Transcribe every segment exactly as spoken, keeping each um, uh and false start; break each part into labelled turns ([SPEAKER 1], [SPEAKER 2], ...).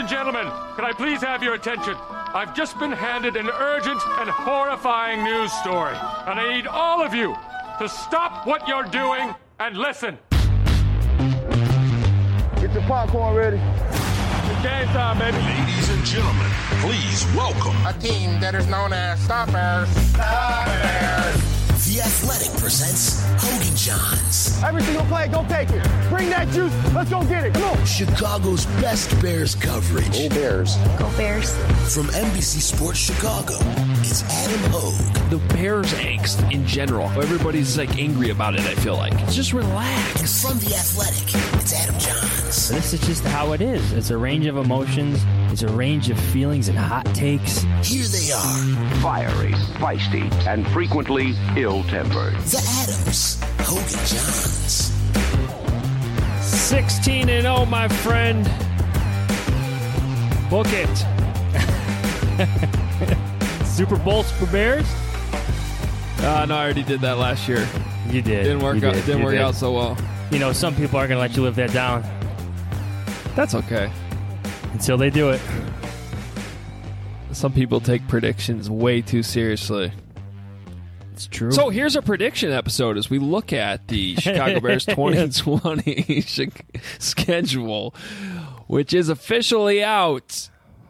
[SPEAKER 1] gentlemen, can I please have your attention? I've just been handed an urgent and horrifying news story, and I need all of you to stop what you're doing and listen.
[SPEAKER 2] Get your popcorn ready.
[SPEAKER 1] It's game time, baby.
[SPEAKER 3] Ladies and gentlemen, please welcome
[SPEAKER 2] a team that is known as Stoppers. Stoppers.
[SPEAKER 4] The Athletic presents Hogan Johns.
[SPEAKER 2] Every single play, go take it. Bring that juice. Let's go get it. Come on.
[SPEAKER 4] Chicago's best Bears coverage.
[SPEAKER 2] Go Bears.
[SPEAKER 5] Go Bears.
[SPEAKER 4] From N B C Sports Chicago, it's Adam Hogue.
[SPEAKER 6] The Bears angst in general. Everybody's like angry about it, I feel like. Just relax.
[SPEAKER 4] And from The Athletic, it's Adam Johns.
[SPEAKER 7] This is just how it is. It's a range of emotions. It's a range of feelings and hot takes.
[SPEAKER 4] Here they are.
[SPEAKER 8] Fiery, feisty, and frequently ill-tempered.
[SPEAKER 4] The Adams, Hogan Johns.
[SPEAKER 6] sixteen and oh, my friend. Book it.
[SPEAKER 7] Super Bowls for Bears?
[SPEAKER 6] Uh, no, I already did that last year.
[SPEAKER 7] You did.
[SPEAKER 6] Didn't work
[SPEAKER 7] you
[SPEAKER 6] out.
[SPEAKER 7] Did.
[SPEAKER 6] Didn't
[SPEAKER 7] you
[SPEAKER 6] work
[SPEAKER 7] did.
[SPEAKER 6] out so well.
[SPEAKER 7] You know, some people aren't going to let you live that down.
[SPEAKER 6] That's okay.
[SPEAKER 7] Until they do it.
[SPEAKER 6] Some people take predictions way too seriously.
[SPEAKER 7] It's true.
[SPEAKER 6] So here's a prediction episode as we look at the Chicago Bears twenty twenty schedule, which is officially out.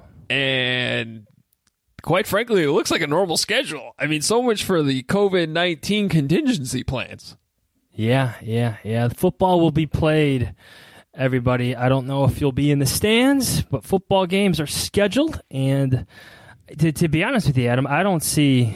[SPEAKER 6] And quite frankly, it looks like a normal schedule. I mean, so much for the covid nineteen contingency plans.
[SPEAKER 7] Yeah, yeah, yeah. The football will be played, everybody. I don't know if you'll be in the stands, but football games are scheduled. And to, to be honest with you, Adam, I don't see,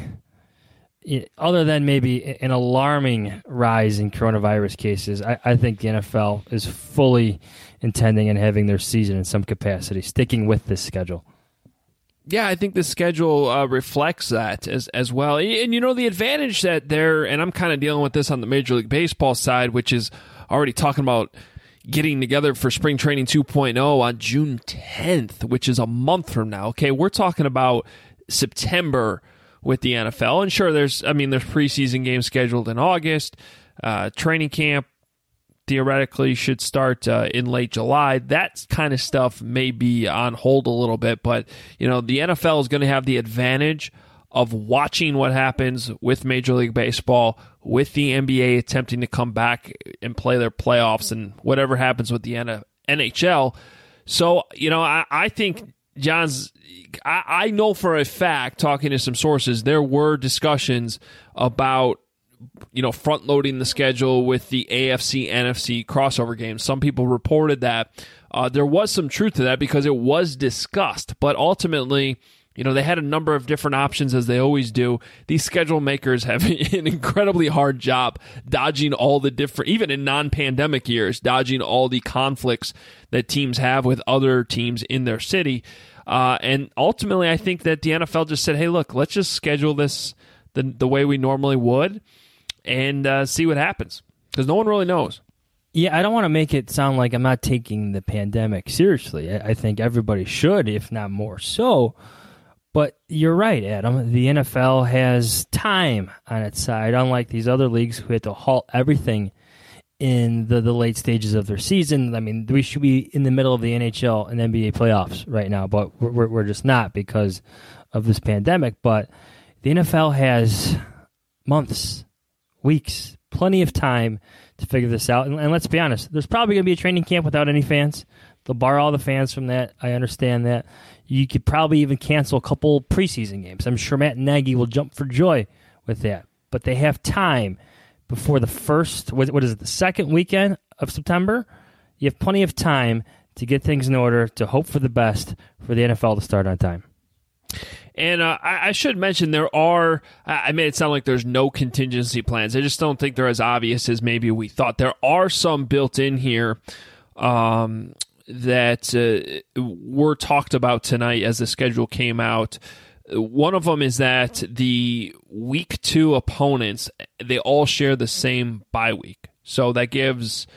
[SPEAKER 7] other than maybe an alarming rise in coronavirus cases, I, I think the N F L is fully intending and having their season in some capacity, sticking with this schedule.
[SPEAKER 6] Yeah, I think the schedule uh, reflects that as as well. And, you know, the advantage that they're, and I'm kind of dealing with this on the Major League Baseball side, which is already talking about getting together for Spring Training two point oh on June tenth, which is a month from now. Okay, we're talking about September with the N F L. And sure, there's, I mean, there's preseason games scheduled in August. Uh, training camp theoretically should start uh, in late July. That kind of stuff may be on hold a little bit, but you know, the N F L is going to have the advantage of watching what happens with Major League Baseball, with the N B A attempting to come back and play their playoffs, and whatever happens with the N H L. So, you know, I, I think, John's, I, I know for a fact, talking to some sources, there were discussions about, you know, front loading the schedule with the A F C N F C crossover games. Some people reported that uh, there was some truth to that because it was discussed, but ultimately, you know, they had a number of different options, as they always do. These schedule makers have an incredibly hard job dodging all the different, even in non-pandemic years, dodging all the conflicts that teams have with other teams in their city. Uh, and ultimately, I think that the N F L just said, hey, look, let's just schedule this the, the way we normally would and uh, see what happens, because no one really knows.
[SPEAKER 7] Yeah, I don't want to make it sound like I'm not taking the pandemic seriously. I, I think everybody should, if not more so. But you're right, Adam. The N F L has time on its side, unlike these other leagues who had to halt everything in the, the late stages of their season. I mean, we should be in the middle of the N H L and N B A playoffs right now, but we're, we're just not because of this pandemic. But the N F L has months, weeks, plenty of time to figure this out. And, and let's be honest, there's probably going to be a training camp without any fans. They'll bar all the fans from that. I understand that. You could probably even cancel a couple preseason games. I'm sure Matt Nagy will jump for joy with that. But they have time before the first, what is it, the second weekend of September? You have plenty of time to get things in order, to hope for the best for the N F L to start on time.
[SPEAKER 6] And uh, I, I should mention there are, I made it sound like there's no contingency plans. I just don't think they're as obvious as maybe we thought. There are some built in here um, that uh, were talked about tonight as the schedule came out. One of them is that the week two opponents, they all share the same bye week. So that gives,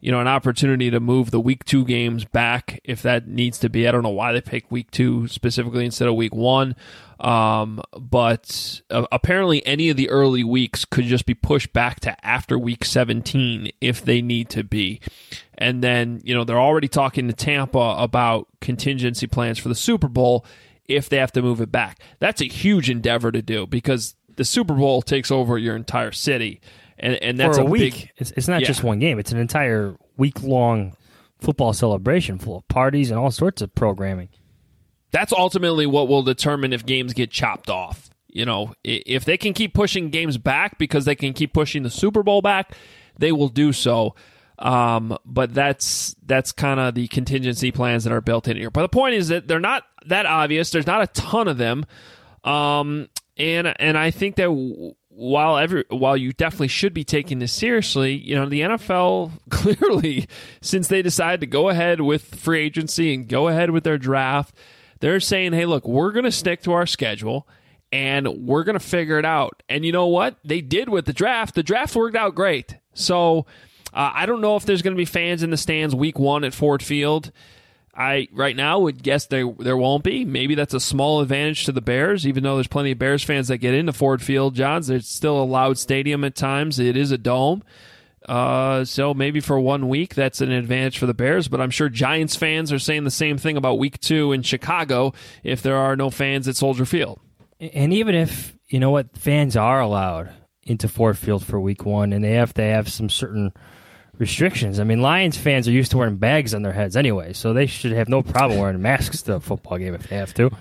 [SPEAKER 6] you know, an opportunity to move the week two games back if that needs to be. I don't know why they picked week two specifically instead of week one. Um, but uh, apparently any of the early weeks could just be pushed back to after week seventeen if they need to be. And then, you know, they're already talking to Tampa about contingency plans for the Super Bowl if they have to move it back. That's a huge endeavor to do because the Super Bowl takes over your entire city. And, and that's
[SPEAKER 7] for a,
[SPEAKER 6] a
[SPEAKER 7] week.
[SPEAKER 6] Big,
[SPEAKER 7] it's, it's not
[SPEAKER 6] yeah.
[SPEAKER 7] just one game. It's an entire week-long football celebration full of parties and all sorts of programming.
[SPEAKER 6] That's ultimately what will determine if games get chopped off. You know, if they can keep pushing games back because they can keep pushing the Super Bowl back, they will do so. Um, but that's that's kind of the contingency plans that are built in here. But the point is that they're not that obvious. There's not a ton of them. Um, and and I think that while every while you definitely should be taking this seriously, you know, the N F L clearly, since they decided to go ahead with free agency and go ahead with their draft, they're saying, hey, look, we're going to stick to our schedule and we're going to figure it out. And you know what? They did with the draft. The draft worked out great. So uh, I don't know if there's going to be fans in the stands week one at Ford Field. I right now would guess there there won't be. Maybe that's a small advantage to the Bears, even though there's plenty of Bears fans that get into Ford Field, Johns. It's still a loud stadium at times. It is a dome. Uh, so maybe for one week, that's an advantage for the Bears, but I'm sure Giants fans are saying the same thing about week two in Chicago if there are no fans at Soldier Field.
[SPEAKER 7] And even if, you know what, fans are allowed into Ford Field for week one and they have to have some certain restrictions. I mean, Lions fans are used to wearing bags on their heads anyway, so they should have no problem wearing masks to a football game if they have to.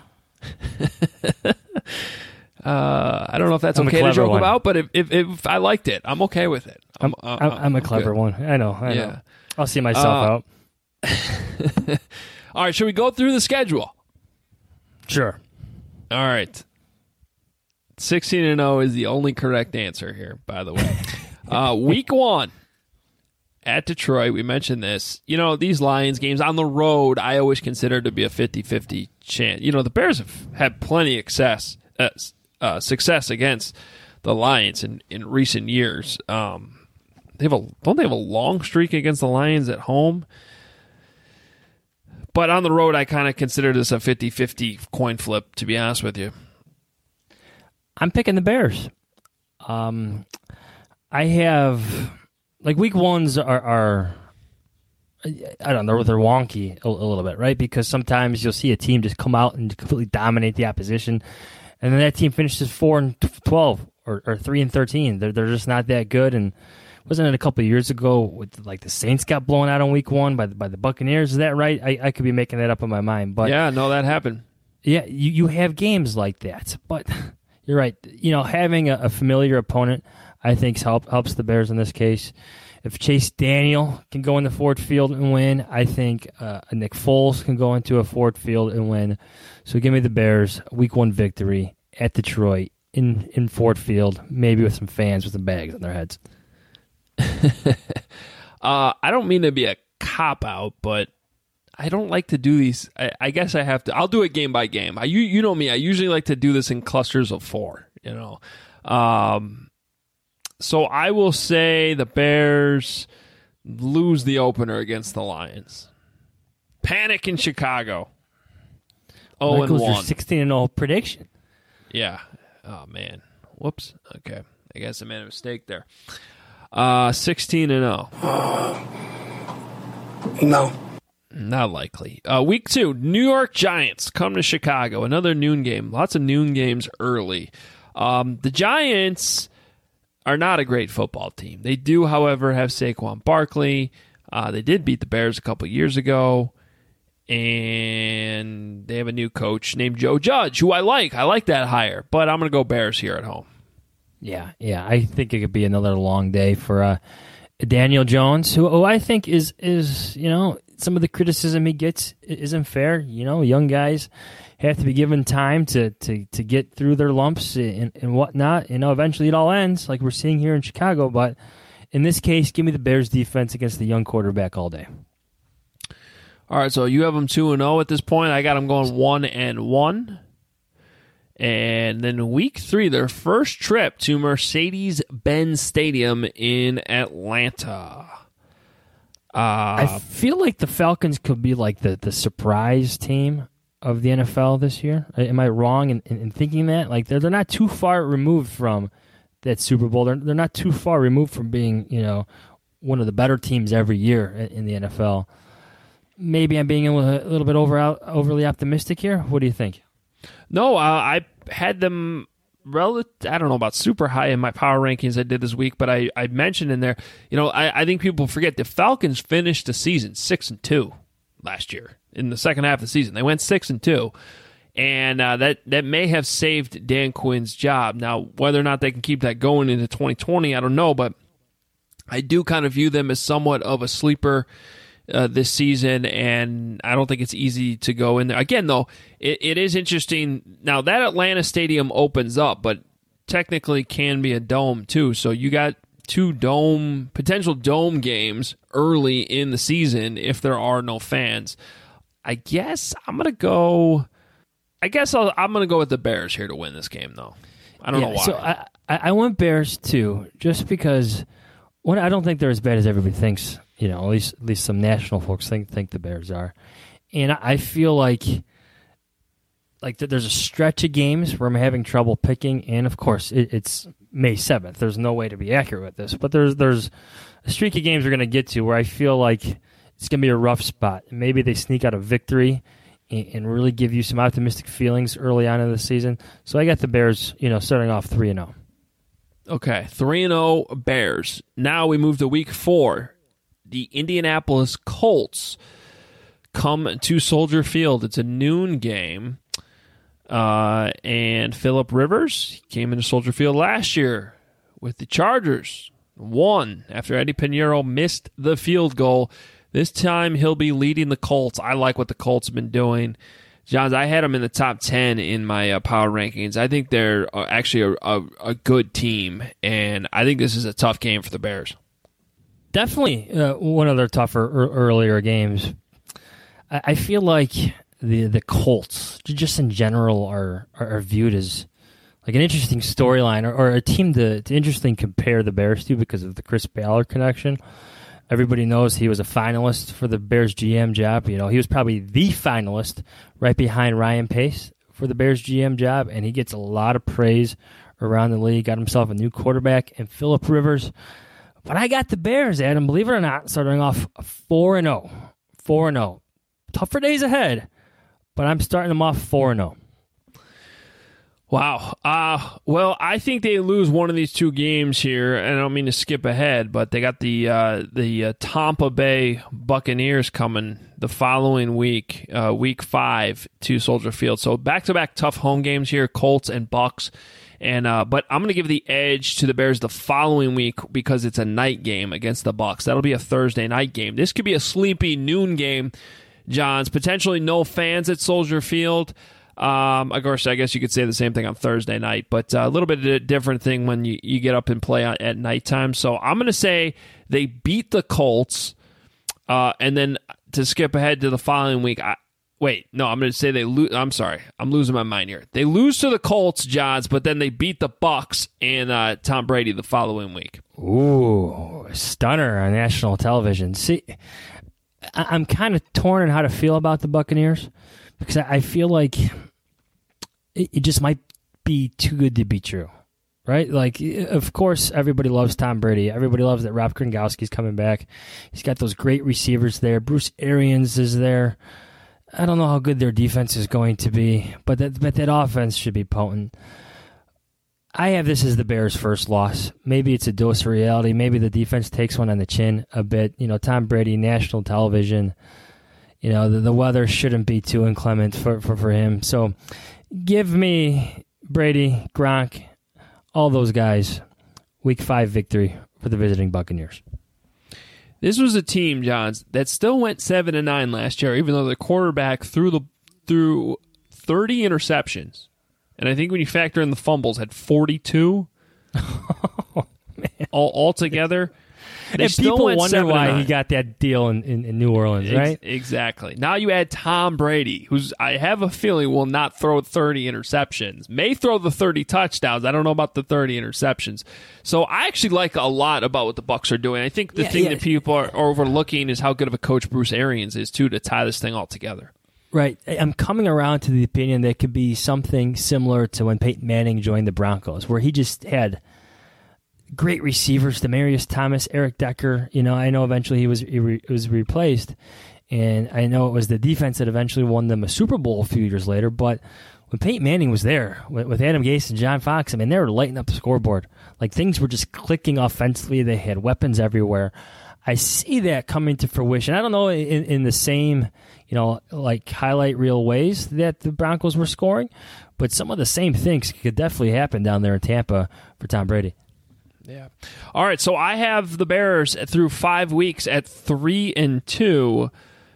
[SPEAKER 6] Uh, I don't know if that's
[SPEAKER 7] I'm
[SPEAKER 6] okay to joke
[SPEAKER 7] one.
[SPEAKER 6] about, but if, if if I liked it, I'm okay with it.
[SPEAKER 7] I'm,
[SPEAKER 6] I'm,
[SPEAKER 7] I'm, I'm a clever
[SPEAKER 6] good.
[SPEAKER 7] one. I know. I
[SPEAKER 6] Yeah.
[SPEAKER 7] know. I'll see myself
[SPEAKER 6] Uh,
[SPEAKER 7] out.
[SPEAKER 6] All right, should we go through the schedule?
[SPEAKER 7] Sure.
[SPEAKER 6] All right. sixteen and oh is the only correct answer here, by the way. uh, week one at Detroit, we mentioned this. You know, these Lions games on the road, I always consider to be a fifty-fifty chance. You know, the Bears have had plenty of success. Uh, Uh, success against the Lions in, in recent years. Um, they have a don't they have a long streak against the Lions at home? But on the road, I kind of consider this a fifty-fifty coin flip, to be honest with you.
[SPEAKER 7] I'm picking the Bears. Um, I have like week ones are, are I don't know, they're wonky a, a little bit, right? Because sometimes you'll see a team just come out and completely dominate the opposition. And then that team finishes four and twelve or, or three and thirteen. They're they're just not that good. And wasn't it a couple of years ago with like the Saints got blown out on week one by the, by the Buccaneers? Is that right? I, I could be making that up in my mind, but
[SPEAKER 6] yeah, no, that happened.
[SPEAKER 7] Yeah, you, you have games like that, but you're right. You know, having a, a familiar opponent, I think help, helps the Bears in this case. If Chase Daniel can go into Ford Field and win, I think uh, Nick Foles can go into a Ford Field and win. So give me the Bears, week one victory at Detroit in, in Ford Field, maybe with some fans with some bags on their heads.
[SPEAKER 6] uh, I don't mean to be a cop-out, but I don't like to do these. I, I guess I have to. I'll do it game by game. I, you, you know me. I usually like to do this in clusters of four, you know. Um, so I will say the Bears lose the opener against the Lions. Panic in Chicago. Oh, and one.
[SPEAKER 7] Your sixteen and oh prediction.
[SPEAKER 6] Yeah. Oh, man. Whoops. Okay. I guess I made a mistake there. Uh, sixteen and oh.
[SPEAKER 4] No.
[SPEAKER 6] Not likely. Uh, week two, New York Giants come to Chicago. Another noon game. Lots of noon games early. Um, the Giants are not a great football team. They do, however, have Saquon Barkley. Uh, they did beat the Bears a couple years ago. And they have a new coach named Joe Judge, who I like. I like that hire. But I'm going to go Bears here at home.
[SPEAKER 7] Yeah, yeah. I think it could be another long day for uh, Daniel Jones, who, who I think is, is, you know, some of the criticism he gets isn't fair. You know, young guys have to be given time to, to, to get through their lumps and, and whatnot. You know, eventually it all ends, like we're seeing here in Chicago. But in this case, give me the Bears defense against the young quarterback all day.
[SPEAKER 6] All right, so you have them two and zero at this point. I got them going one and one, and then week three, their first trip to Mercedes-Benz Stadium in Atlanta. Uh,
[SPEAKER 7] I feel like the Falcons could be like the, the surprise team of the N F L this year. Am I wrong in, in, in thinking that? Like they're they're not too far removed from that Super Bowl. They're they're not too far removed from being, you know, one of the better teams every year in, in the N F L. Maybe I'm being a little, a little bit over overly optimistic here. What do you think?
[SPEAKER 6] No, uh, I had them relative. I don't know about super high in my power rankings I did this week, but I, I mentioned in there, you know, I, I think people forget the Falcons finished the season six and two last year in the second half of the season. They went six and two, and uh, that that may have saved Dan Quinn's job. Now, whether or not they can keep that going into twenty twenty, I don't know, but I do kind of view them as somewhat of a sleeper Uh, this season, and I don't think it's easy to go in there. Again, though, it, it is interesting. Now, that Atlanta stadium opens up, but technically can be a dome, too. So you got two dome, potential dome games early in the season if there are no fans. I guess I'm going to go, I guess I'll, I'm going to go with the Bears here to win this game, though. I don't
[SPEAKER 7] yeah,
[SPEAKER 6] know why.
[SPEAKER 7] So I, I went Bears, too, just because one, I don't think they're as bad as everybody thinks. You know, at least at least some national folks think think the Bears are, and I feel like like there's a stretch of games where I'm having trouble picking, and of course it, it's May seventh. There's no way to be accurate with this, but there's there's a streak of games we're going to get to where I feel like it's going to be a rough spot. Maybe they sneak out a victory and, and really give you some optimistic feelings early on in the season. So I got the Bears, you know, starting off three and zero.
[SPEAKER 6] Okay, three and zero Bears. Now we move to week four. The Indianapolis Colts come to Soldier Field. It's a noon game. Uh, and Phillip Rivers came into Soldier Field last year with the Chargers. Won after Eddie Pinheiro missed the field goal. This time he'll be leading the Colts. I like what the Colts have been doing. Johns, I had them in the top ten in my uh, power rankings. I think they're uh, actually a, a, a good team, and I think this is a tough game for the Bears.
[SPEAKER 7] Definitely uh, one of their tougher er, earlier games. I, I feel like the the Colts, just in general, are are, are viewed as like an interesting storyline or, or a team to, to interesting compare the Bears to because of the Chris Ballard connection. Everybody knows he was a finalist for the Bears G M job. You know, he was probably the finalist right behind Ryan Pace for the Bears G M job, and he gets a lot of praise around the league. Got himself a new quarterback, and Phillip Rivers. But I got the Bears, Adam, believe it or not, starting off four and oh. four and oh. Tougher days ahead, but I'm starting them off four and oh.
[SPEAKER 6] Wow. Uh, well, I think they lose one of these two games here, and I don't mean to skip ahead, but they got the uh, the uh, Tampa Bay Buccaneers coming the following week, uh, week five, to Soldier Field. So back-to-back tough home games here, Colts and Bucs. And uh, but I'm going to give the edge to the Bears the following week because it's a night game against the Bucs. That'll be a Thursday night game. This could be a sleepy noon game, Johns. Potentially no fans at Soldier Field. Um, of course, I guess you could say the same thing on Thursday night, but uh, a little bit of a different thing when you, you get up and play on, at nighttime. So I'm going to say they beat the Colts, uh, and then to skip ahead to the following week, I, Wait, no, I'm going to say they lose. I'm sorry. I'm losing my mind here. They lose to the Colts, Johns, but then they beat the Bucs and uh, Tom Brady the following week.
[SPEAKER 7] Ooh, stunner on national television. See, I- I'm kind of torn on how to feel about the Buccaneers because I, I feel like it-, it just might be too good to be true, right? Like, of course, everybody loves Tom Brady. Everybody loves that Rob Gronkowski's coming back. He's got those great receivers there. Bruce Arians is there. I don't know how good their defense is going to be, but that but that offense should be potent. I have this as the Bears' first loss. Maybe it's a dose of reality. Maybe the defense takes one on the chin a bit. You know, Tom Brady, national television. You know, the, the weather shouldn't be too inclement for, for, for him. So give me Brady, Gronk, all those guys, week five victory for the visiting Buccaneers.
[SPEAKER 6] This was a team, Johns, that still went seven and nine last year, even though the quarterback threw the threw thirty interceptions, and I think when you factor in the fumbles, had forty-two
[SPEAKER 7] oh, man.
[SPEAKER 6] all altogether. They
[SPEAKER 7] and
[SPEAKER 6] still
[SPEAKER 7] people
[SPEAKER 6] went
[SPEAKER 7] wonder
[SPEAKER 6] seven and
[SPEAKER 7] why
[SPEAKER 6] nine.
[SPEAKER 7] he got that deal in, in, in New Orleans,
[SPEAKER 6] Ex-
[SPEAKER 7] right?
[SPEAKER 6] Exactly. Now you add Tom Brady, who's I have a feeling will not throw thirty interceptions. May throw the thirty touchdowns. I don't know about the thirty interceptions. So I actually like a lot about what the Bucs are doing. I think the
[SPEAKER 7] Yeah,
[SPEAKER 6] thing
[SPEAKER 7] yeah.
[SPEAKER 6] that people are overlooking is how good of a coach Bruce Arians is too to tie this thing all together.
[SPEAKER 7] Right. I'm coming around to the opinion that it could be something similar to when Peyton Manning joined the Broncos, where he just had great receivers, Demaryius Thomas, Eric Decker. You know, I know eventually he was he re, was replaced, and I know it was the defense that eventually won them a Super Bowl a few years later. But when Peyton Manning was there with, with Adam Gase and John Fox, I mean, they were lighting up the scoreboard. Like things were just clicking offensively. They had weapons everywhere. I see that coming to fruition. I don't know in, in the same, you know, like highlight reel ways that the Broncos were scoring, but some of the same things could definitely happen down there in Tampa for Tom Brady.
[SPEAKER 6] Yeah. All right. So I have the Bears through five weeks at three and two,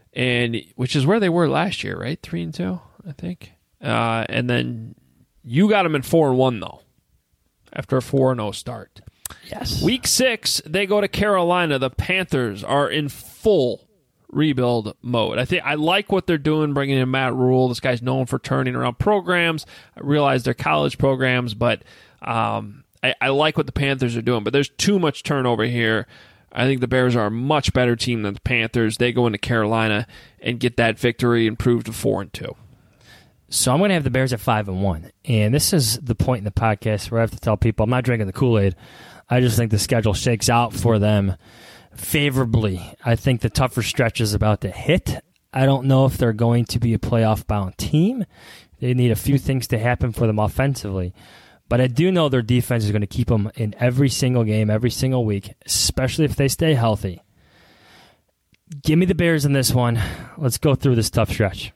[SPEAKER 6] and which is where they were last year, right? Three and two, I think. Uh, and then you got them in four and one though, after a four and zero start.
[SPEAKER 7] Yes.
[SPEAKER 6] Week six, they go to Carolina. The Panthers are in full rebuild mode. I think I like what they're doing, bringing in Matt Rule. This guy's known for turning around programs. I realize they're college programs, but um, I, I like what the Panthers are doing. But there's too much turnover here. I think the Bears are a much better team than the Panthers. They go into Carolina and get that victory and prove to four and two.
[SPEAKER 7] So I'm going to have the Bears at five and one, and this is the point in the podcast where I have to tell people I'm not drinking the Kool-Aid. I just think the schedule shakes out for them favorably. I think the tougher stretch is about to hit. I don't know if they're going to be a playoff-bound team. They need a few things to happen for them offensively. But I do know their defense is going to keep them in every single game, every single week, especially if they stay healthy. Give me the Bears in this one. Let's go through this tough stretch.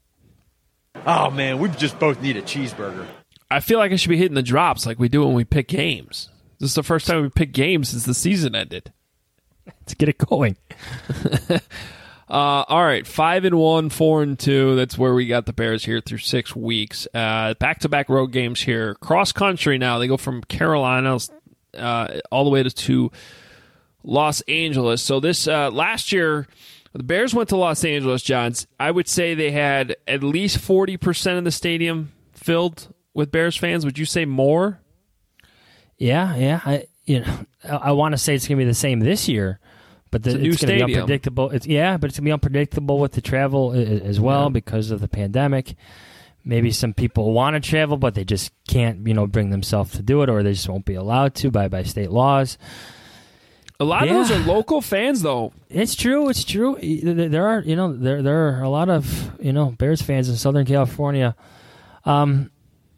[SPEAKER 5] Oh, man, we just both need a cheeseburger.
[SPEAKER 6] I feel like I should be hitting the drops like we do when we pick games. This is the first time we picked games since the season ended.
[SPEAKER 7] Let's get it going.
[SPEAKER 6] uh, all right, five and one, four and two. That's where we got the Bears here through six weeks. Uh, back-to-back road games here. Cross country now. They go from Carolina uh, all the way to, to Los Angeles. So this uh, last year, the Bears went to Los Angeles, Johns. I would say they had at least forty percent of the stadium filled with Bears fans. Would you say more?
[SPEAKER 7] Yeah, yeah. I you know I, I want to say it's going to be the same this year, but the,
[SPEAKER 6] It's a new
[SPEAKER 7] it's going to be
[SPEAKER 6] stadium.
[SPEAKER 7] unpredictable. It's yeah, but it's going to be unpredictable with the travel a- a- as well
[SPEAKER 6] Yeah.
[SPEAKER 7] because of the pandemic. Maybe some people want to travel, but they just can't, you know, bring themselves to do it, or they just won't be allowed to by by state laws.
[SPEAKER 6] A lot
[SPEAKER 7] Yeah.
[SPEAKER 6] of those are local fans, though.
[SPEAKER 7] It's true. It's true. There there are, you know, there there are a lot of, you know, Bears fans in Southern California. Um,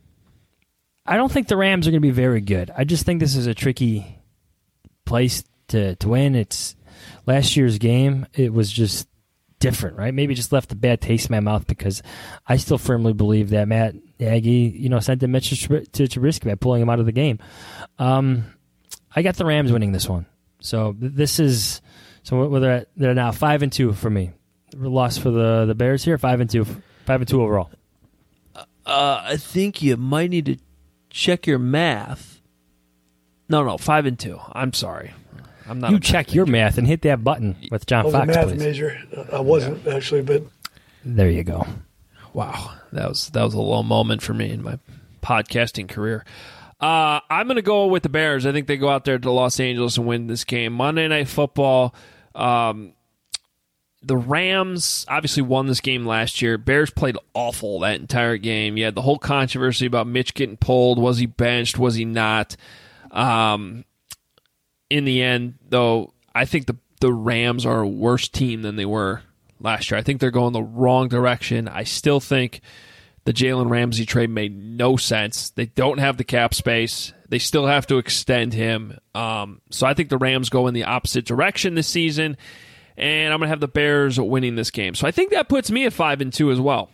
[SPEAKER 7] I don't think the Rams are going to be very good. I just think this is a tricky place to to win. It's last year's game. It was just different, right? Maybe it just left a bad taste in my mouth because I still firmly believe that Matt Nagy, you know, sent a message to Trubisky by pulling him out of the game. Um, I got the Rams winning this one. So this is so whether they're now five and two for me. Loss for the, the Bears here, five and two, five and two overall.
[SPEAKER 6] Uh, I think you might need to check your math. No, no, five and two. I'm sorry, I'm not.
[SPEAKER 7] You
[SPEAKER 6] a
[SPEAKER 7] check your math and hit that button with John
[SPEAKER 9] I was
[SPEAKER 7] Fox,
[SPEAKER 9] a math
[SPEAKER 7] please.
[SPEAKER 9] major. I wasn't actually, but
[SPEAKER 7] There you go.
[SPEAKER 6] Wow, that was that was a low moment for me in my podcasting career. Uh, I'm going to go with the Bears. I think they go out there to Los Angeles and win this game. Monday Night Football. Um, the Rams obviously won this game last year. Bears played awful that entire game. You had the whole controversy about Mitch getting pulled. Was he benched? Was he not? Um, in the end, though, I think the the Rams are a worse team than they were last year. I think they're going the wrong direction. I still think the Jalen Ramsey trade made no sense. They don't have the cap space. They still have to extend him. Um, so I think the Rams go in the opposite direction this season, and I'm going to have the Bears winning this game. So I think that puts me at five and two as well.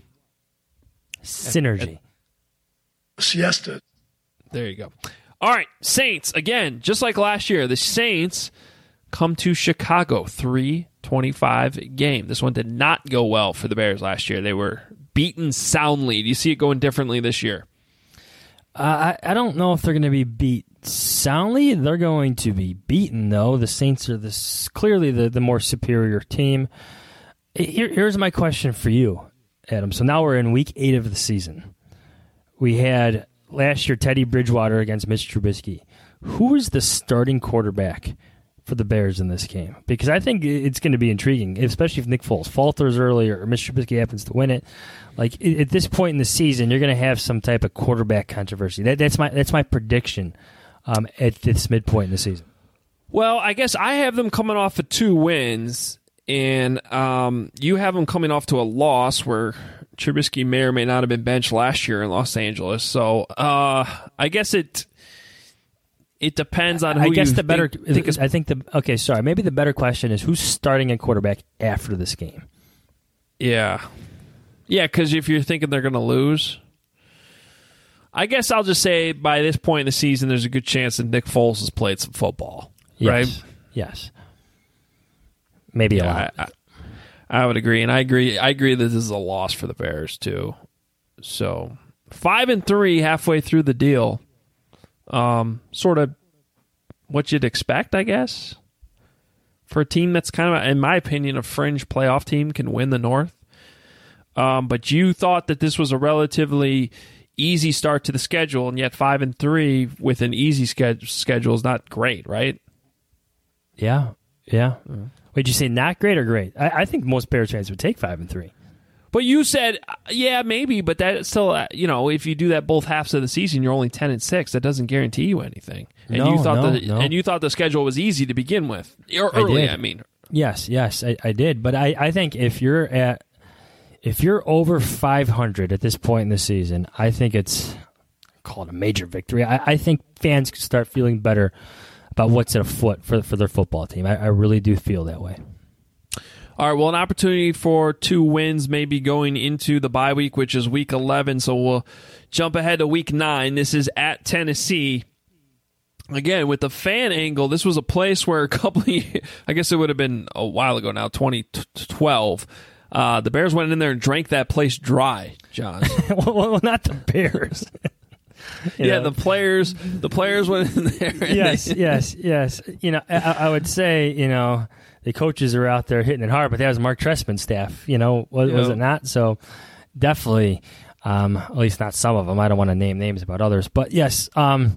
[SPEAKER 7] Synergy.
[SPEAKER 9] siesta.
[SPEAKER 6] There you go. All right, Saints, again, just like last year, the Saints come to Chicago, three twenty-five game. This one did not go well for the Bears last year. They were beaten soundly. Do you see it going differently this year?
[SPEAKER 7] Uh, I, I don't know if they're going to be beat soundly they're going to be beaten, though. The Saints are this clearly the, the more superior team. Here, here's my question for you, Adam. So now we're in week eight of the season. We had last year Teddy Bridgewater against Mitch Trubisky. Who is the starting quarterback for the Bears in this game? Because I think it's going to be intriguing, especially if Nick Foles falters early or Mitch Trubisky happens to win it. Like at this point in the season, you're going to have some type of quarterback controversy. That, that's my that's my prediction um, at this midpoint in the season.
[SPEAKER 6] Well, I guess I have them coming off of two wins, and um, you have them coming off to a loss where Trubisky may or may not have been benched last year in Los Angeles. So uh, I guess it. It depends on who
[SPEAKER 7] I guess
[SPEAKER 6] you
[SPEAKER 7] the better.
[SPEAKER 6] think, think is,
[SPEAKER 7] I think the okay. Sorry, maybe the better question is who's starting a quarterback after this game.
[SPEAKER 6] Yeah, yeah. Because if you're thinking they're going to lose, I guess I'll just say by this point in the season, there's a good chance that Nick Foles has played some football.
[SPEAKER 7] Yes.
[SPEAKER 6] Right?
[SPEAKER 7] Yes. Maybe
[SPEAKER 6] yeah,
[SPEAKER 7] a lot.
[SPEAKER 6] I, I, I would agree, and I agree. I agree that this is a loss for the Bears too. So five and three halfway through the deal. Um, sort of what you'd expect, I guess, for a team that's kind of, in my opinion, a fringe playoff team can win the North. Um, but you thought that this was a relatively easy start to the schedule, and yet five and three with an easy ske- schedule is not great, right?
[SPEAKER 7] Yeah, yeah. Mm. Wait, did you say not great or great? I, I think most Bears fans would take five and three.
[SPEAKER 6] But you said, yeah, maybe, but that still, uh, you know, if you do that both halves of the season, you're only ten and six. That doesn't guarantee you anything. And
[SPEAKER 7] no,
[SPEAKER 6] you thought
[SPEAKER 7] no,
[SPEAKER 6] the
[SPEAKER 7] no.
[SPEAKER 6] and you thought the schedule was easy to begin with, or
[SPEAKER 7] I
[SPEAKER 6] early.
[SPEAKER 7] did.
[SPEAKER 6] I mean,
[SPEAKER 7] yes, yes, I, I did. But I, I think if you're at if you're over five hundred at this point in the season, I think it's call it a major victory. I, I think fans can start feeling better about what's at afoot for for their football team. I, I really do feel that way.
[SPEAKER 6] All right, well, an opportunity for two wins maybe going into the bye week, which is week eleven. So we'll jump ahead to week nine. This is at Tennessee. Again, with the fan angle, this was a place where a couple of years, I guess it would have been a while ago now, twenty twelve. Uh, the Bears went in there and drank that place dry, John.
[SPEAKER 7] Well, not the Bears.
[SPEAKER 6] yeah, know. the players the players went in there.
[SPEAKER 7] Yes,
[SPEAKER 6] they,
[SPEAKER 7] yes, yes. You know, I, I would say, you know, the coaches are out there hitting it hard, but that was Mark Trestman's staff, you know, was,
[SPEAKER 6] yep.
[SPEAKER 7] was it not? So definitely, um, at least not some of them. I don't want to name names about others. But yes, um,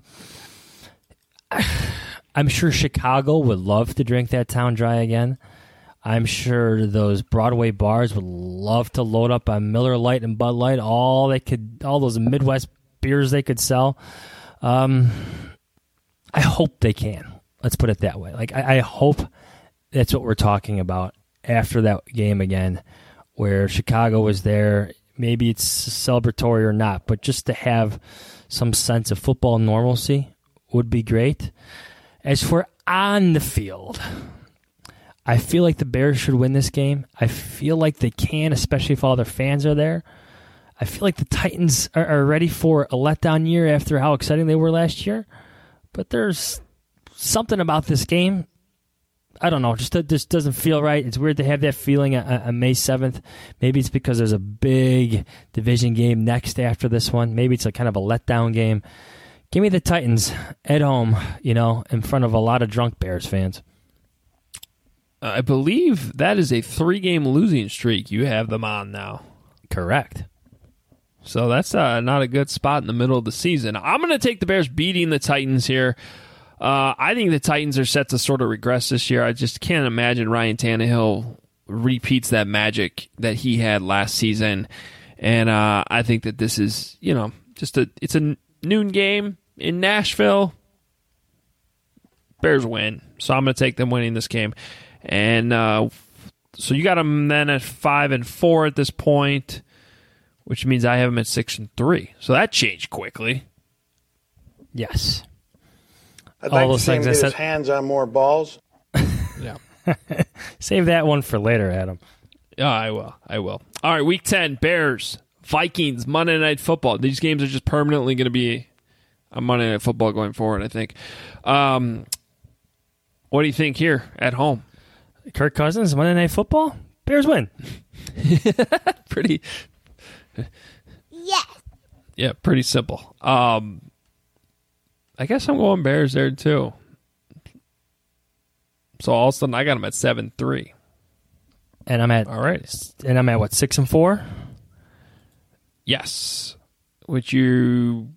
[SPEAKER 7] I'm sure Chicago would love to drink that town dry again. I'm sure those Broadway bars would love to load up on Miller Lite and Bud Light, all they could, all those Midwest beers they could sell. Um, I hope they can. Let's put it that way. Like I, I hope that's what we're talking about after that game again, where Chicago was there. Maybe it's celebratory or not, but just to have some sense of football normalcy would be great. As for on the field, I feel like the Bears should win this game. I feel like they can, especially if all their fans are there. I feel like the Titans are, are ready for a letdown year after how exciting they were last year. But there's something about this game, I don't know, just just doesn't feel right. It's weird to have that feeling on, on May seventh. Maybe it's because there's a big division game next after this one. Maybe it's a kind of a letdown game. Give me the Titans at home, you know, in front of a lot of drunk Bears fans.
[SPEAKER 6] I believe that is a three-game losing streak you have them on now.
[SPEAKER 7] Correct.
[SPEAKER 6] So that's uh, not a good spot in the middle of the season. I'm going to take the Bears beating the Titans here. Uh, I think the Titans are set to sort of regress this year. I just can't imagine Ryan Tannehill repeats that magic that he had last season. And uh, I think that this is, you know, just a it's a noon game in Nashville. Bears win. So I'm going to take them winning this game. And uh, so you got them then at five and four at this point, which means I have them at six and three. So that changed quickly.
[SPEAKER 7] Yes.
[SPEAKER 10] I'd like to see him get his hands on more balls.
[SPEAKER 6] Yeah.
[SPEAKER 7] Save that one for later, Adam.
[SPEAKER 6] Yeah, I will. I will. All right, week ten, Bears, Vikings, Monday Night Football. These games are just permanently going to be a Monday Night Football going forward, I think. Um, what do you think here at home?
[SPEAKER 7] Kirk Cousins, Monday Night Football, Bears win.
[SPEAKER 6] Pretty.
[SPEAKER 11] Yeah.
[SPEAKER 6] Yeah, pretty simple. Um, I guess I'm going Bears there too. So all of a sudden I got them at seven three.
[SPEAKER 7] And I'm at
[SPEAKER 6] all right.
[SPEAKER 7] And I'm at what, six and four?
[SPEAKER 6] Yes. Which you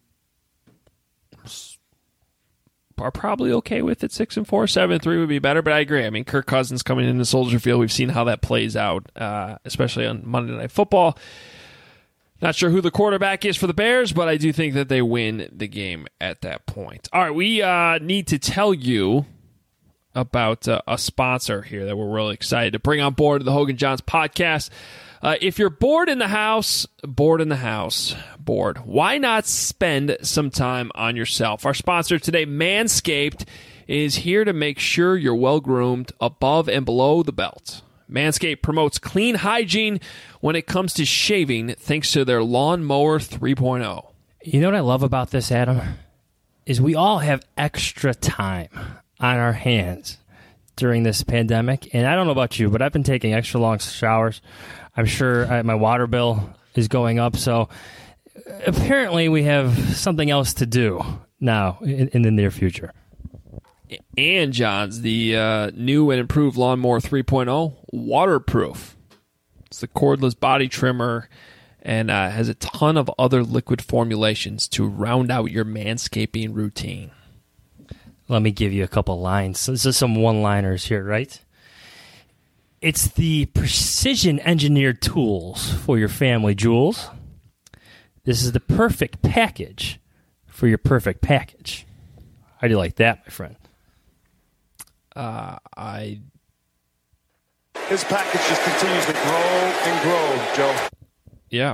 [SPEAKER 6] are probably okay with at six and four. Seven and three would be better, but I agree. I mean, Kirk Cousins coming into Soldier Field, we've seen how that plays out, uh, especially on Monday Night Football. Not sure who the quarterback is for the Bears, but I do think that they win the game at that point. All right, we uh, need to tell you about uh, a sponsor here that we're really excited to bring on board the Hogan Johns podcast. Uh, if you're bored in the house, bored in the house, bored, why not spend some time on yourself? Our sponsor today, Manscaped, is here to make sure you're well-groomed above and below the belt. Manscaped promotes clean hygiene when it comes to shaving thanks to their Lawnmower three point oh.
[SPEAKER 7] You know what I love about this, Adam? Is we all have extra time on our hands during this pandemic. And I don't know about you, but I've been taking extra long showers. I'm sure uh, my water bill is going up. So apparently we have something else to do now in, in the near future.
[SPEAKER 6] And, Johns, the uh, new and improved Lawnmower three point oh, waterproof. It's the cordless body trimmer and uh, has a ton of other liquid formulations to round out your manscaping routine.
[SPEAKER 7] Let me give you a couple lines. This is some one-liners here, right? It's the precision-engineered tools for your family jewels. This is the perfect package for your perfect package. How do you like that, my friend?
[SPEAKER 6] Uh, I.
[SPEAKER 11] His package just continues to grow and grow, Joe.
[SPEAKER 6] Yeah.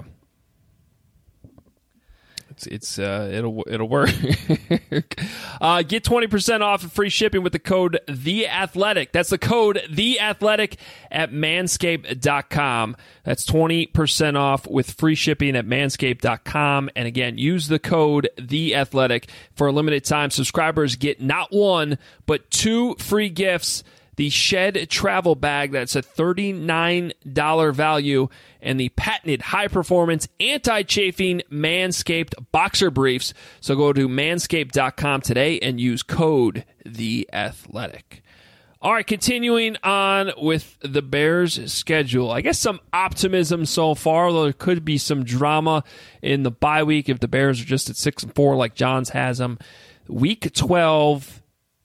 [SPEAKER 6] It's it's uh it'll it'll work. uh, get twenty percent off and free shipping with the code The Athletic. That's the code The Athletic at manscaped dot com. That's twenty percent off with free shipping at manscaped dot com. And again, use the code The Athletic for a limited time. Subscribers get not one but two free gifts. The Shed Travel Bag, that's a thirty-nine dollars value, and the patented high-performance, anti-chafing Manscaped Boxer Briefs. So go to manscaped dot com today and use code The Athletic. All right, continuing on with the Bears' schedule. I guess some optimism so far, although there could be some drama in the bye week if the Bears are just at six and four like Johns has them. Week twelve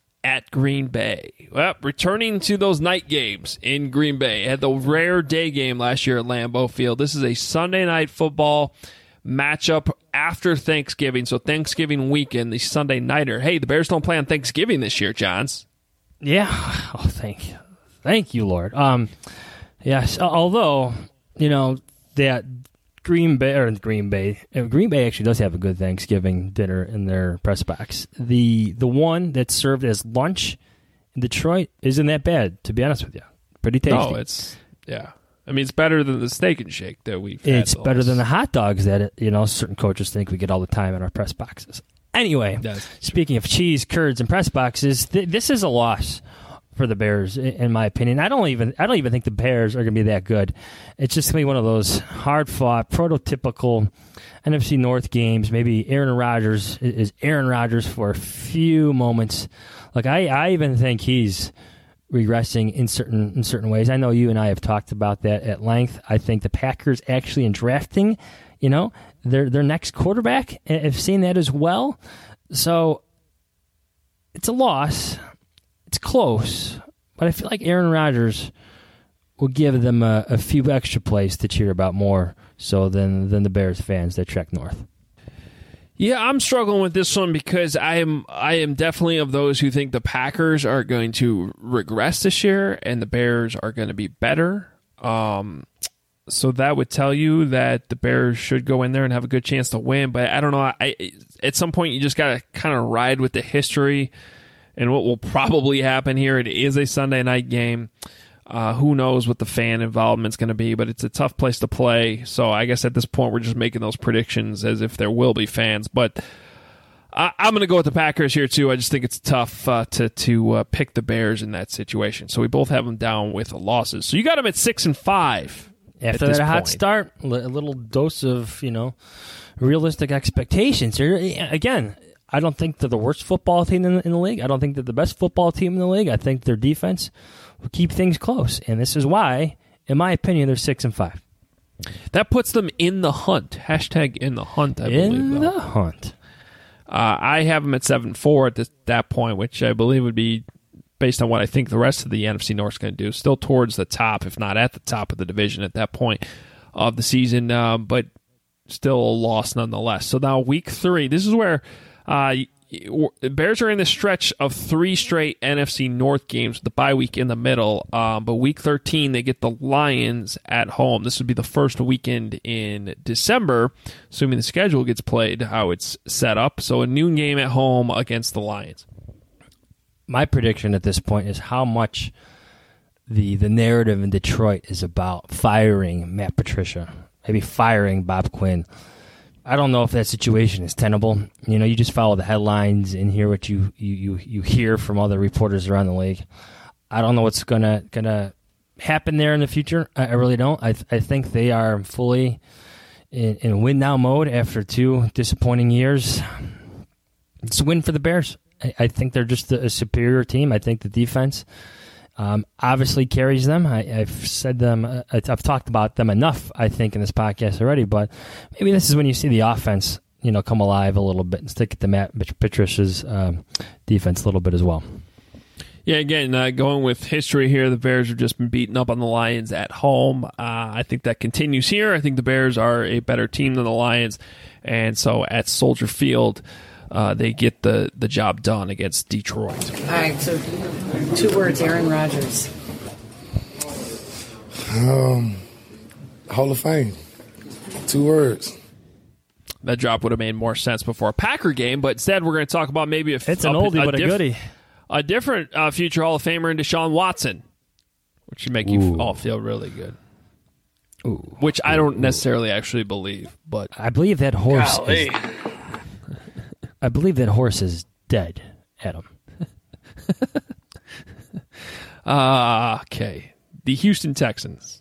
[SPEAKER 6] at Green Bay. Well, returning to those night games in Green Bay. Had the rare day game last year at Lambeau Field. This is a Sunday night football matchup after Thanksgiving. So Thanksgiving weekend, the Sunday nighter. Hey, the Bears don't play on Thanksgiving this year, Johns.
[SPEAKER 7] Yeah. Oh, thank you. Thank you, Lord. Um, yes, although, you know, that Green Bay, or Green Bay, Green Bay actually does have a good Thanksgiving dinner in their press box. The the one that's served as lunch in Detroit isn't that bad, to be honest with you. Pretty tasty.
[SPEAKER 6] No, it's, yeah. I mean, it's better than the Steak and Shake that we've had.
[SPEAKER 7] It's better than the hot dogs that, you know, certain coaches think we get all the time in our press boxes. Anyway, speaking of cheese, curds, and press boxes, th- this is a loss for the Bears, in my opinion. I don't even I don't even think the Bears are going to be that good. It's just going to be one of those hard-fought, prototypical N F C North games. Maybe Aaron Rodgers is Aaron Rodgers for a few moments. Like I, I even think he's regressing in certain in certain ways. I know you and I have talked about that at length. I think the Packers actually in drafting, you know, their their next quarterback, have seen that as well. So it's a loss. It's close, but I feel like Aaron Rodgers will give them a, a few extra plays to cheer about more so than than the Bears fans that trek north.
[SPEAKER 6] Yeah, I'm struggling with this one because I am I am definitely of those who think the Packers are going to regress this year and the Bears are going to be better. Um, so that would tell you that the Bears should go in there and have a good chance to win. But I don't know. I, at some point, you just got to kind of ride with the history and what will probably happen here. It is a Sunday night game. Uh, who knows what the fan involvement's going to be, but it's a tough place to play. So I guess at this point, we're just making those predictions as if there will be fans. But I, I'm going to go with the Packers here, too. I just think it's tough uh, to to uh, pick the Bears in that situation. So we both have them down with losses. So you got them at six and five.
[SPEAKER 7] After that hot start, a little dose of, you know, realistic expectations here. Again, I don't think they're the worst football team in the, in the league. I don't think they're the best football team in the league. I think their defense will keep things close, and this is why, in my opinion, they're six and five.
[SPEAKER 6] That puts them in the hunt. Hashtag in the hunt, I
[SPEAKER 7] in
[SPEAKER 6] believe.
[SPEAKER 7] In
[SPEAKER 6] the
[SPEAKER 7] hunt.
[SPEAKER 6] Uh, I have them at seven and four at this, that point, which I believe would be, based on what I think the rest of the N F C North is going to do, still towards the top, if not at the top of the division at that point of the season, uh, but still a loss nonetheless. So now week three, this is where uh, the Bears are in the stretch of three straight N F C North games with the bye week in the middle. Um, but week thirteen, they get the Lions at home. This would be the first weekend in December, assuming the schedule gets played how it's set up. So a noon game at home against the Lions.
[SPEAKER 7] My prediction at this point is how much the the narrative in Detroit is about firing Matt Patricia, maybe firing Bob Quinn. I don't know if that situation is tenable. You know, you just follow the headlines and hear what you you, you, you hear from other reporters around the league. I don't know what's gonna gonna happen there in the future. I, I really don't. I I think they are fully in, in win now mode after two disappointing years. It's a win for the Bears. I, I think they're just a, a superior team. I think the defense Um, obviously carries them. I, I've said them. Uh, I've talked about them enough, I think, in this podcast already. But maybe this is when you see the offense, you know, come alive a little bit and stick at the Matt Patricia's um, defense a little bit as well.
[SPEAKER 6] Yeah, again, uh, going with history here, the Bears have just been beaten up on the Lions at home. Uh, I think that continues here. I think the Bears are a better team than the Lions, and so at Soldier Field, Uh, they get the, the job done against Detroit.
[SPEAKER 12] All right, so two words, Aaron Rodgers.
[SPEAKER 13] Um, Hall of Fame. Two words.
[SPEAKER 6] That drop would have made more sense before a Packer game, but instead we're going to talk about maybe a,
[SPEAKER 7] it's an
[SPEAKER 6] a,
[SPEAKER 7] oldie
[SPEAKER 6] a,
[SPEAKER 7] but a
[SPEAKER 6] diff,
[SPEAKER 7] goodie.
[SPEAKER 6] A different uh, future Hall of Famer in Deshaun Watson, which should make
[SPEAKER 7] Ooh.
[SPEAKER 6] you all feel really good.
[SPEAKER 7] Ooh.
[SPEAKER 6] Which I don't necessarily actually believe, but
[SPEAKER 7] I believe that horse
[SPEAKER 10] Golly.
[SPEAKER 7] is I believe that horse is dead, Adam.
[SPEAKER 6] uh, okay. The Houston Texans.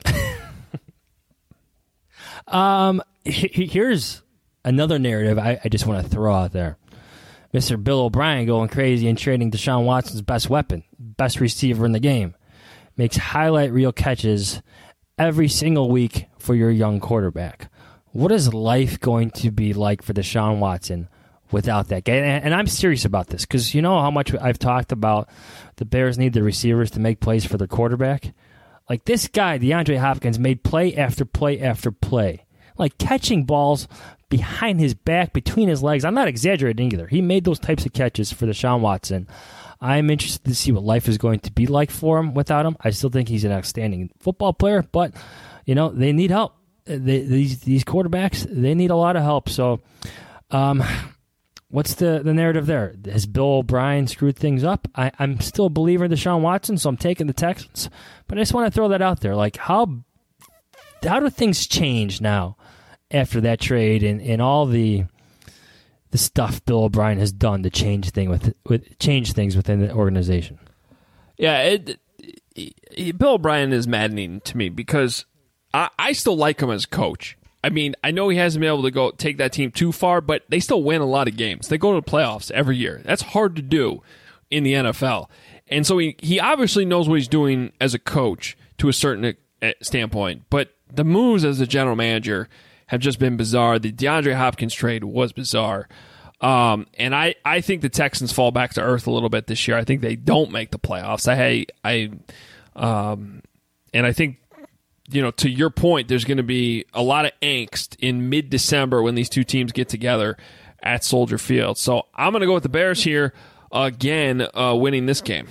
[SPEAKER 7] um, he, here's another narrative I, I just want to throw out there. Mister Bill O'Brien going crazy and trading Deshaun Watson's best weapon, best receiver in the game, makes highlight reel catches every single week for your young quarterback. What is life going to be like for Deshaun Watson without that guy? And, and I'm serious about this because you know how much I've talked about the Bears need the receivers to make plays for their quarterback. Like this guy, DeAndre Hopkins, made play after play after play, like catching balls behind his back, between his legs. I'm not exaggerating either. He made those types of catches for Deshaun Watson. I'm interested to see what life is going to be like for him without him. I still think he's an outstanding football player, but you know they need help. They, these these quarterbacks, they need a lot of help. So, um. What's the, the narrative there? Has Bill O'Brien screwed things up? I, I'm still a believer in Deshaun Watson, so I'm taking the Texans. But I just want to throw that out there. Like, how how do things change now after that trade and, and all the the stuff Bill O'Brien has done to change thing with, with change things within the organization?
[SPEAKER 6] Yeah, it, it, Bill O'Brien is maddening to me because I, I still like him as coach. I mean, I know he hasn't been able to go take that team too far, but they still win a lot of games. They go to the playoffs every year. That's hard to do in the N F L. And so he, he obviously knows what he's doing as a coach to a certain standpoint. But the moves as a general manager have just been bizarre. The DeAndre Hopkins trade was bizarre. Um, and I, I think the Texans fall back to earth a little bit this year. I think they don't make the playoffs. I, I, um, and I think, you know, to your point, there's going to be a lot of angst in mid-December when these two teams get together at Soldier Field. So I'm going to go with the Bears here again, uh, winning this game.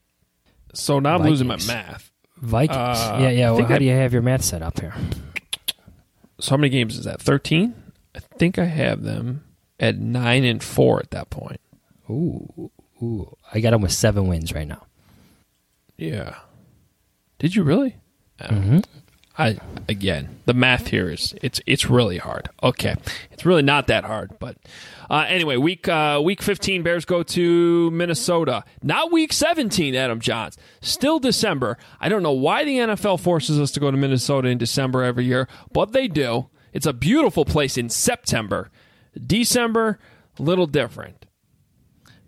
[SPEAKER 6] So now I'm
[SPEAKER 7] Vikings.
[SPEAKER 6] losing my math.
[SPEAKER 7] Vikings.
[SPEAKER 6] Uh,
[SPEAKER 7] yeah, yeah. Well, how
[SPEAKER 6] I,
[SPEAKER 7] do you have your math set up here?
[SPEAKER 6] So how many games is that? thirteen? I think I have them at nine and four at that point.
[SPEAKER 7] Ooh, ooh. I got them with seven wins right now.
[SPEAKER 6] Yeah. Did you really?
[SPEAKER 7] Mm-hmm.
[SPEAKER 6] I again, the math here is it's it's really hard. Okay, it's really not that hard, but uh, anyway, week uh, week fifteen, Bears go to Minnesota. Not week seventeen, Adam Johns. Still December. I don't know why the N F L forces us to go to Minnesota in December every year, but they do. It's a beautiful place in September. December, a little different.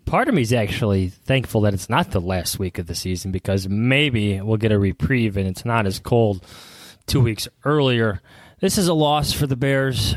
[SPEAKER 7] Part of me is actually thankful that it's not the last week of the season because maybe we'll get a reprieve and it's not as cold two weeks earlier. This is a loss for the Bears.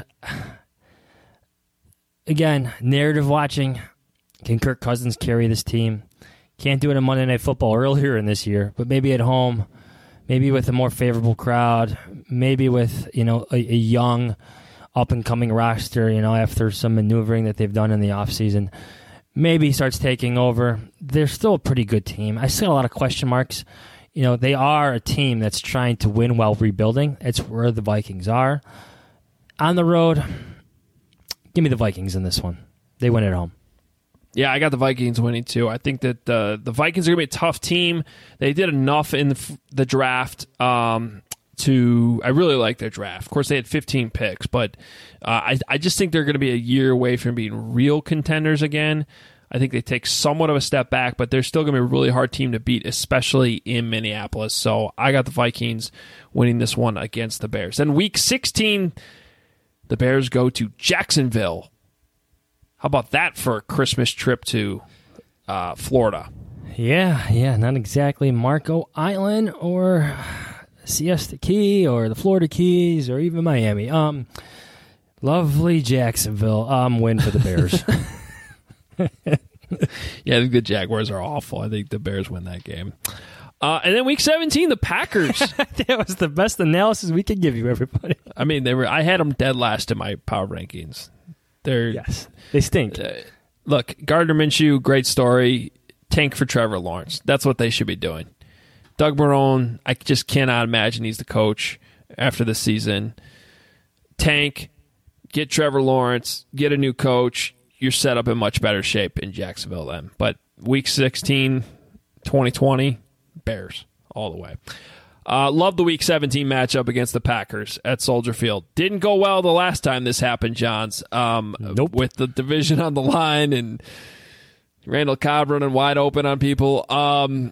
[SPEAKER 7] Again, narrative watching. Can Kirk Cousins carry this team? Can't do it in Monday Night Football earlier in this year, but maybe at home, maybe with a more favorable crowd, maybe with, you know, a, a young, up-and-coming roster, you know, after some maneuvering that they've done in the offseason. Maybe he starts taking over. They're still a pretty good team. I see a lot of question marks. You know, they are a team that's trying to win while rebuilding. It's where the Vikings are. On the road, give me the Vikings in this one. They win at home.
[SPEAKER 6] Yeah, I got the Vikings winning too. I think that uh, the Vikings are going to be a tough team. They did enough in the, the draft um, to... I really like their draft. Of course, they had fifteen picks, but uh, I, I just think they're going to be a year away from being real contenders again. I think they take somewhat of a step back, but they're still going to be a really hard team to beat, especially in Minneapolis. So I got the Vikings winning this one against the Bears. Then week sixteen, the Bears go to Jacksonville. How about that for a Christmas trip to uh, Florida?
[SPEAKER 7] Yeah, yeah, not exactly Marco Island or Siesta Key or the Florida Keys or even Miami. Um, lovely Jacksonville. Um, win for the Bears.
[SPEAKER 6] Yeah, I think the Jaguars are awful. I think the Bears win that game. Uh, and then week seventeen, the Packers.
[SPEAKER 7] That was the best analysis we could give you, everybody.
[SPEAKER 6] I mean, they were. I had them dead last in my power rankings. They're
[SPEAKER 7] yes, they stink.
[SPEAKER 6] Uh, look, Gardner Minshew, great story. Tank for Trevor Lawrence. That's what they should be doing. Doug Marrone, I just cannot imagine he's the coach after this season. Tank, get Trevor Lawrence, get a new coach. You're set up in much better shape in Jacksonville then. But week sixteen, twenty twenty, Bears all the way. Uh, love the week seventeen matchup against the Packers at Soldier Field. Didn't go well the last time this happened, Johns. Um,
[SPEAKER 7] nope.
[SPEAKER 6] With the division on the line and Randall Cobb running wide open on people. Um,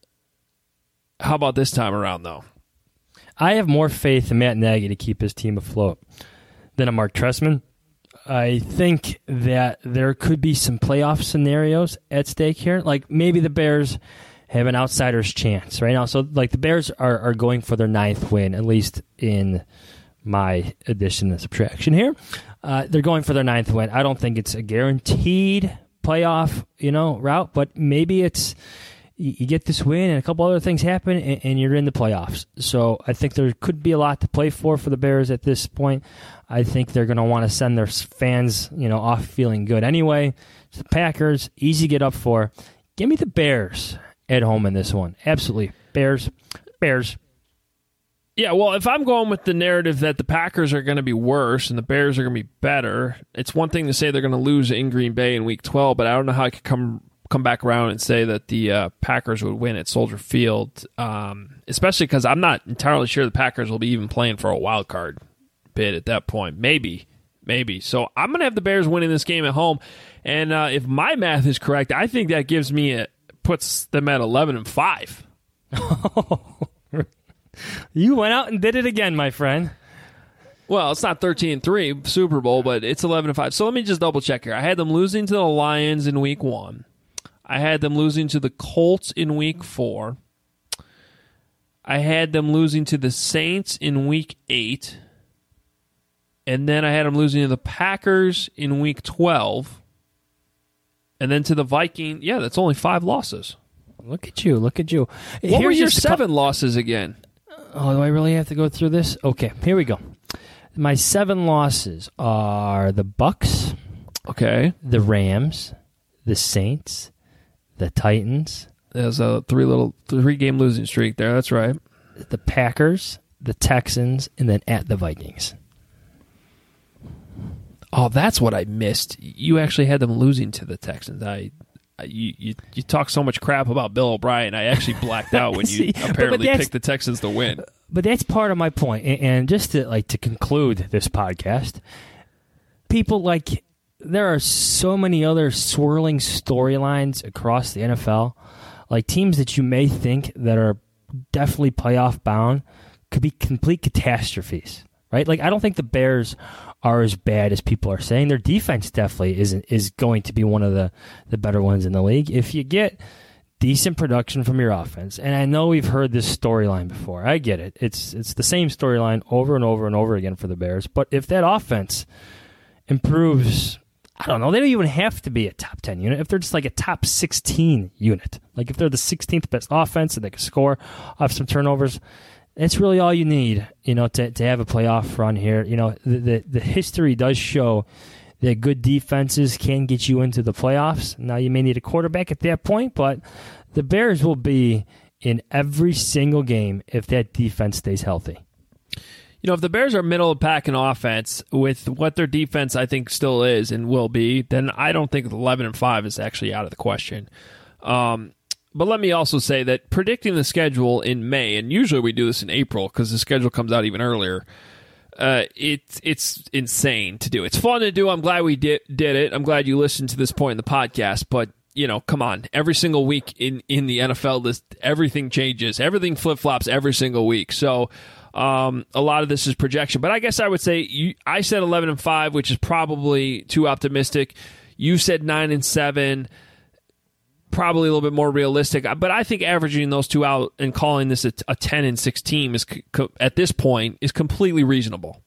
[SPEAKER 6] how about this time around, though?
[SPEAKER 7] I have more faith in Matt Nagy to keep his team afloat than a Mark Trestman. I think that there could be some playoff scenarios at stake here. Like maybe the Bears have an outsider's chance right now. So like the Bears are, are going for their ninth win, at least in my addition and subtraction here. Uh, they're going for their ninth win. I don't think it's a guaranteed playoff, you know, route, but maybe it's you, you get this win and a couple other things happen and, and you're in the playoffs. So I think there could be a lot to play for for the Bears at this point. I think they're going to want to send their fans, you know, off feeling good anyway. It's the Packers, easy to get up for. Give me the Bears at home in this one. Absolutely. Bears. Bears.
[SPEAKER 6] Yeah, well, if I'm going with the narrative that the Packers are going to be worse and the Bears are going to be better, it's one thing to say they're going to lose in Green Bay in Week twelve, but I don't know how I could come come back around and say that the uh, Packers would win at Soldier Field, um, especially because I'm not entirely sure the Packers will be even playing for a wild card bid at that point. Maybe. Maybe. So I'm going to have the Bears winning this game at home, and uh, if my math is correct, I think that gives me a puts them at eleven and five.
[SPEAKER 7] You went out and did it again, my friend.
[SPEAKER 6] Well, it's not thirteen and three Super Bowl, but it's eleven and five. So let me just double check here. I had them losing to the Lions in week one. I had them losing to the Colts in week four. I had them losing to the Saints in week eight. And then I had them losing to the Packers in week twelve. And then to the Vikings. Yeah, that's only five losses.
[SPEAKER 7] Look at you. Look at you.
[SPEAKER 6] What
[SPEAKER 7] Here's
[SPEAKER 6] were your
[SPEAKER 7] just
[SPEAKER 6] seven
[SPEAKER 7] co-
[SPEAKER 6] losses again?
[SPEAKER 7] Oh, do I really have to go through this? Okay, here we go. My seven losses are the Bucks,
[SPEAKER 6] okay,
[SPEAKER 7] the Rams, the Saints, the Titans.
[SPEAKER 6] There's a three little three game losing streak there. That's right.
[SPEAKER 7] The Packers, the Texans, and then at the Vikings.
[SPEAKER 6] Oh, that's what I missed. You actually had them losing to the Texans. I, I you, you you talk so much crap about Bill O'Brien. I actually blacked out when you See, apparently picked the Texans to win.
[SPEAKER 7] But that's part of my point. And just to like to conclude this podcast, people like there are so many other swirling storylines across the N F L, like teams that you may think that are definitely playoff bound could be complete catastrophes. Right? Like, I don't think the Bears are as bad as people are saying. Their defense definitely is is going to be one of the, the better ones in the league. If you get decent production from your offense, and I know we've heard this storyline before. I get it. It's it's the same storyline over and over and over again for the Bears. But if that offense improves, I don't know, they don't even have to be a top ten unit. If they're just like a top sixteen unit, like if they're the sixteenth best offense and they can score off some turnovers, it's really all you need, you know, to to have a playoff run here. You know, the the, the history does show that good defenses can get you into the playoffs. Now, you may need a quarterback at that point, but the Bears will be in every single game if that defense stays healthy.
[SPEAKER 6] You know, if the Bears are middle of pack in offense with what their defense I think still is and will be, then I don't think eleven and five is actually out of the question. Um, but let me also say that predicting the schedule in May, and usually we do this in April because the schedule comes out even earlier, Uh, it's it's insane to do. It's fun to do. I'm glad we did did it. I'm glad you listened to this point in the podcast. But, you know, come on. Every single week in, in the N F L, this, everything changes. Everything flip-flops every single week. So um, a lot of this is projection. But I guess I would say you, I said eleven and five, which is probably too optimistic. You said nine and seven. Probably a little bit more realistic, but I think averaging those two out and calling this a, a ten and six team is at this point is completely reasonable.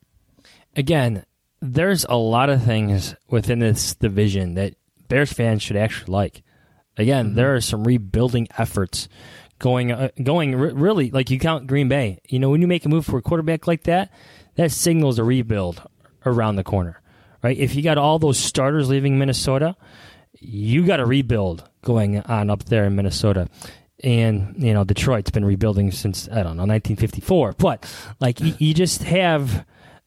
[SPEAKER 7] Again, there's a lot of things within this division that Bears fans should actually like. Again, mm-hmm. there are some rebuilding efforts going, uh, going re- really, like you count Green Bay. You know, when you make a move for a quarterback like that, that signals a rebuild around the corner, right? If you got all those starters leaving Minnesota, you got to rebuild going on up there in Minnesota. And, you know, Detroit's been rebuilding since, I don't know, nineteen fifty-four. But, like, you, you just have,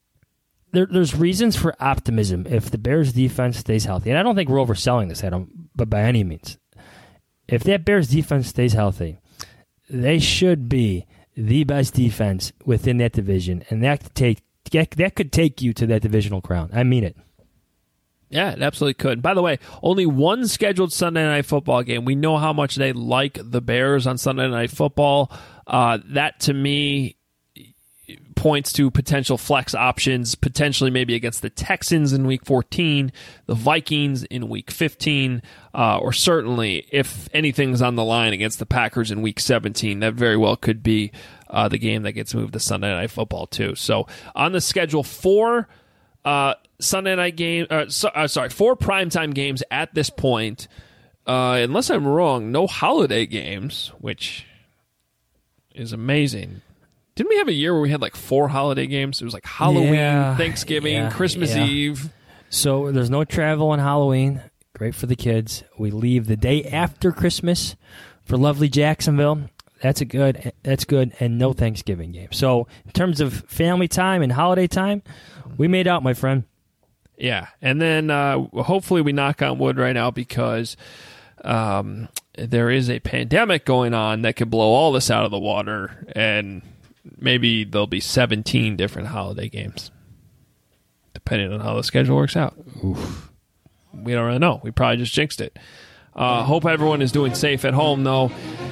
[SPEAKER 7] there, there's reasons for optimism if the Bears defense stays healthy. And I don't think we're overselling this, Adam, but by any means. If that Bears defense stays healthy, they should be the best defense within that division. And that could take, that could take you to that divisional crown. I mean it.
[SPEAKER 6] Yeah, it absolutely could. By the way, only one scheduled Sunday Night Football game. We know how much they like the Bears on Sunday Night Football. Uh, that, to me, points to potential flex options, potentially maybe against the Texans in Week fourteen, the Vikings in Week fifteen, uh, or certainly, if anything's on the line, against the Packers in Week seventeen. That very well could be uh, the game that gets moved to Sunday Night Football, too. So, on the schedule, four Uh, Sunday night game, uh, so, uh, sorry, four primetime games at this point. Uh, unless I'm wrong, no holiday games, which is amazing. Didn't we have a year where we had like four holiday games? It was like Halloween,
[SPEAKER 7] yeah,
[SPEAKER 6] Thanksgiving,
[SPEAKER 7] yeah,
[SPEAKER 6] Christmas
[SPEAKER 7] yeah.
[SPEAKER 6] Eve.
[SPEAKER 7] So there's no travel on Halloween. Great for the kids. We leave the day after Christmas for lovely Jacksonville. That's a good. That's good, and no Thanksgiving game. So in terms of family time and holiday time, we made out, my friend.
[SPEAKER 6] Yeah, and then uh, hopefully we knock on wood right now because um, there is a pandemic going on that could blow all this out of the water, and maybe there'll be seventeen different holiday games, depending on how the schedule works out. Oof. We don't really know. We probably just jinxed it. Uh, hope everyone is doing safe at home, though.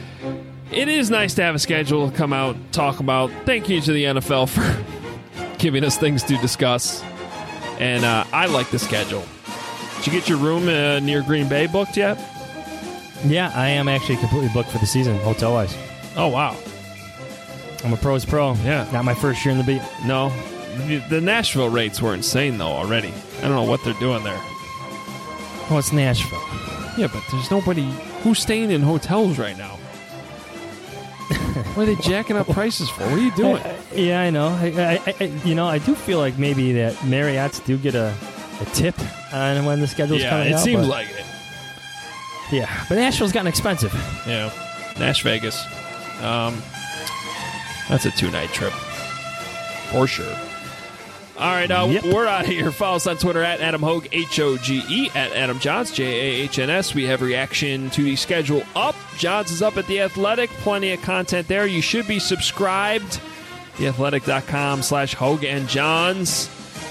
[SPEAKER 6] It is nice to have a schedule to come out, talk about. Thank you to the N F L for giving us things to discuss. And uh, I like the schedule. Did you get your room uh, near Green Bay booked yet?
[SPEAKER 7] Yeah, I am actually completely booked for the season, hotel-wise.
[SPEAKER 6] Oh, wow.
[SPEAKER 7] I'm a pro's pro.
[SPEAKER 6] Yeah.
[SPEAKER 7] Not my first year in the beat.
[SPEAKER 6] No. The, the Nashville rates were insane, though, already. I don't know what they're doing there.
[SPEAKER 7] Well, it's Nashville.
[SPEAKER 6] Yeah, but there's nobody who's staying in hotels right now. What are they jacking up prices for? What are you doing?
[SPEAKER 7] Uh, yeah, I know. I, I, I, you know, I do feel like maybe that Marriotts do get a, a tip on when the schedule's
[SPEAKER 6] yeah,
[SPEAKER 7] coming
[SPEAKER 6] it
[SPEAKER 7] out.
[SPEAKER 6] Yeah, it seems
[SPEAKER 7] but,
[SPEAKER 6] like it.
[SPEAKER 7] Yeah, but Nashville's gotten expensive.
[SPEAKER 6] Yeah, Nash Vegas. Um, that's a two-night trip. For sure. All right, uh, yep. We're out of here. Follow us on Twitter at Adam Hoge, H O G E, at Adam Johns, J A H N S. We have reaction to the schedule up. Johns is up at The Athletic. Plenty of content there. You should be subscribed. theathletic.com slash Hoge and Johns.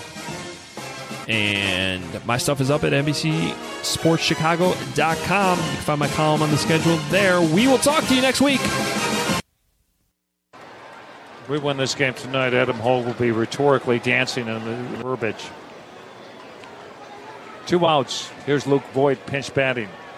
[SPEAKER 6] And my stuff is up at N B C Sports Chicago dot com. You can find my column on the schedule there. We will talk to you next week.
[SPEAKER 14] If we win this game tonight, Adam Hoge will be rhetorically dancing in the verbiage. Two outs. Here's Luke Voigt pinch batting.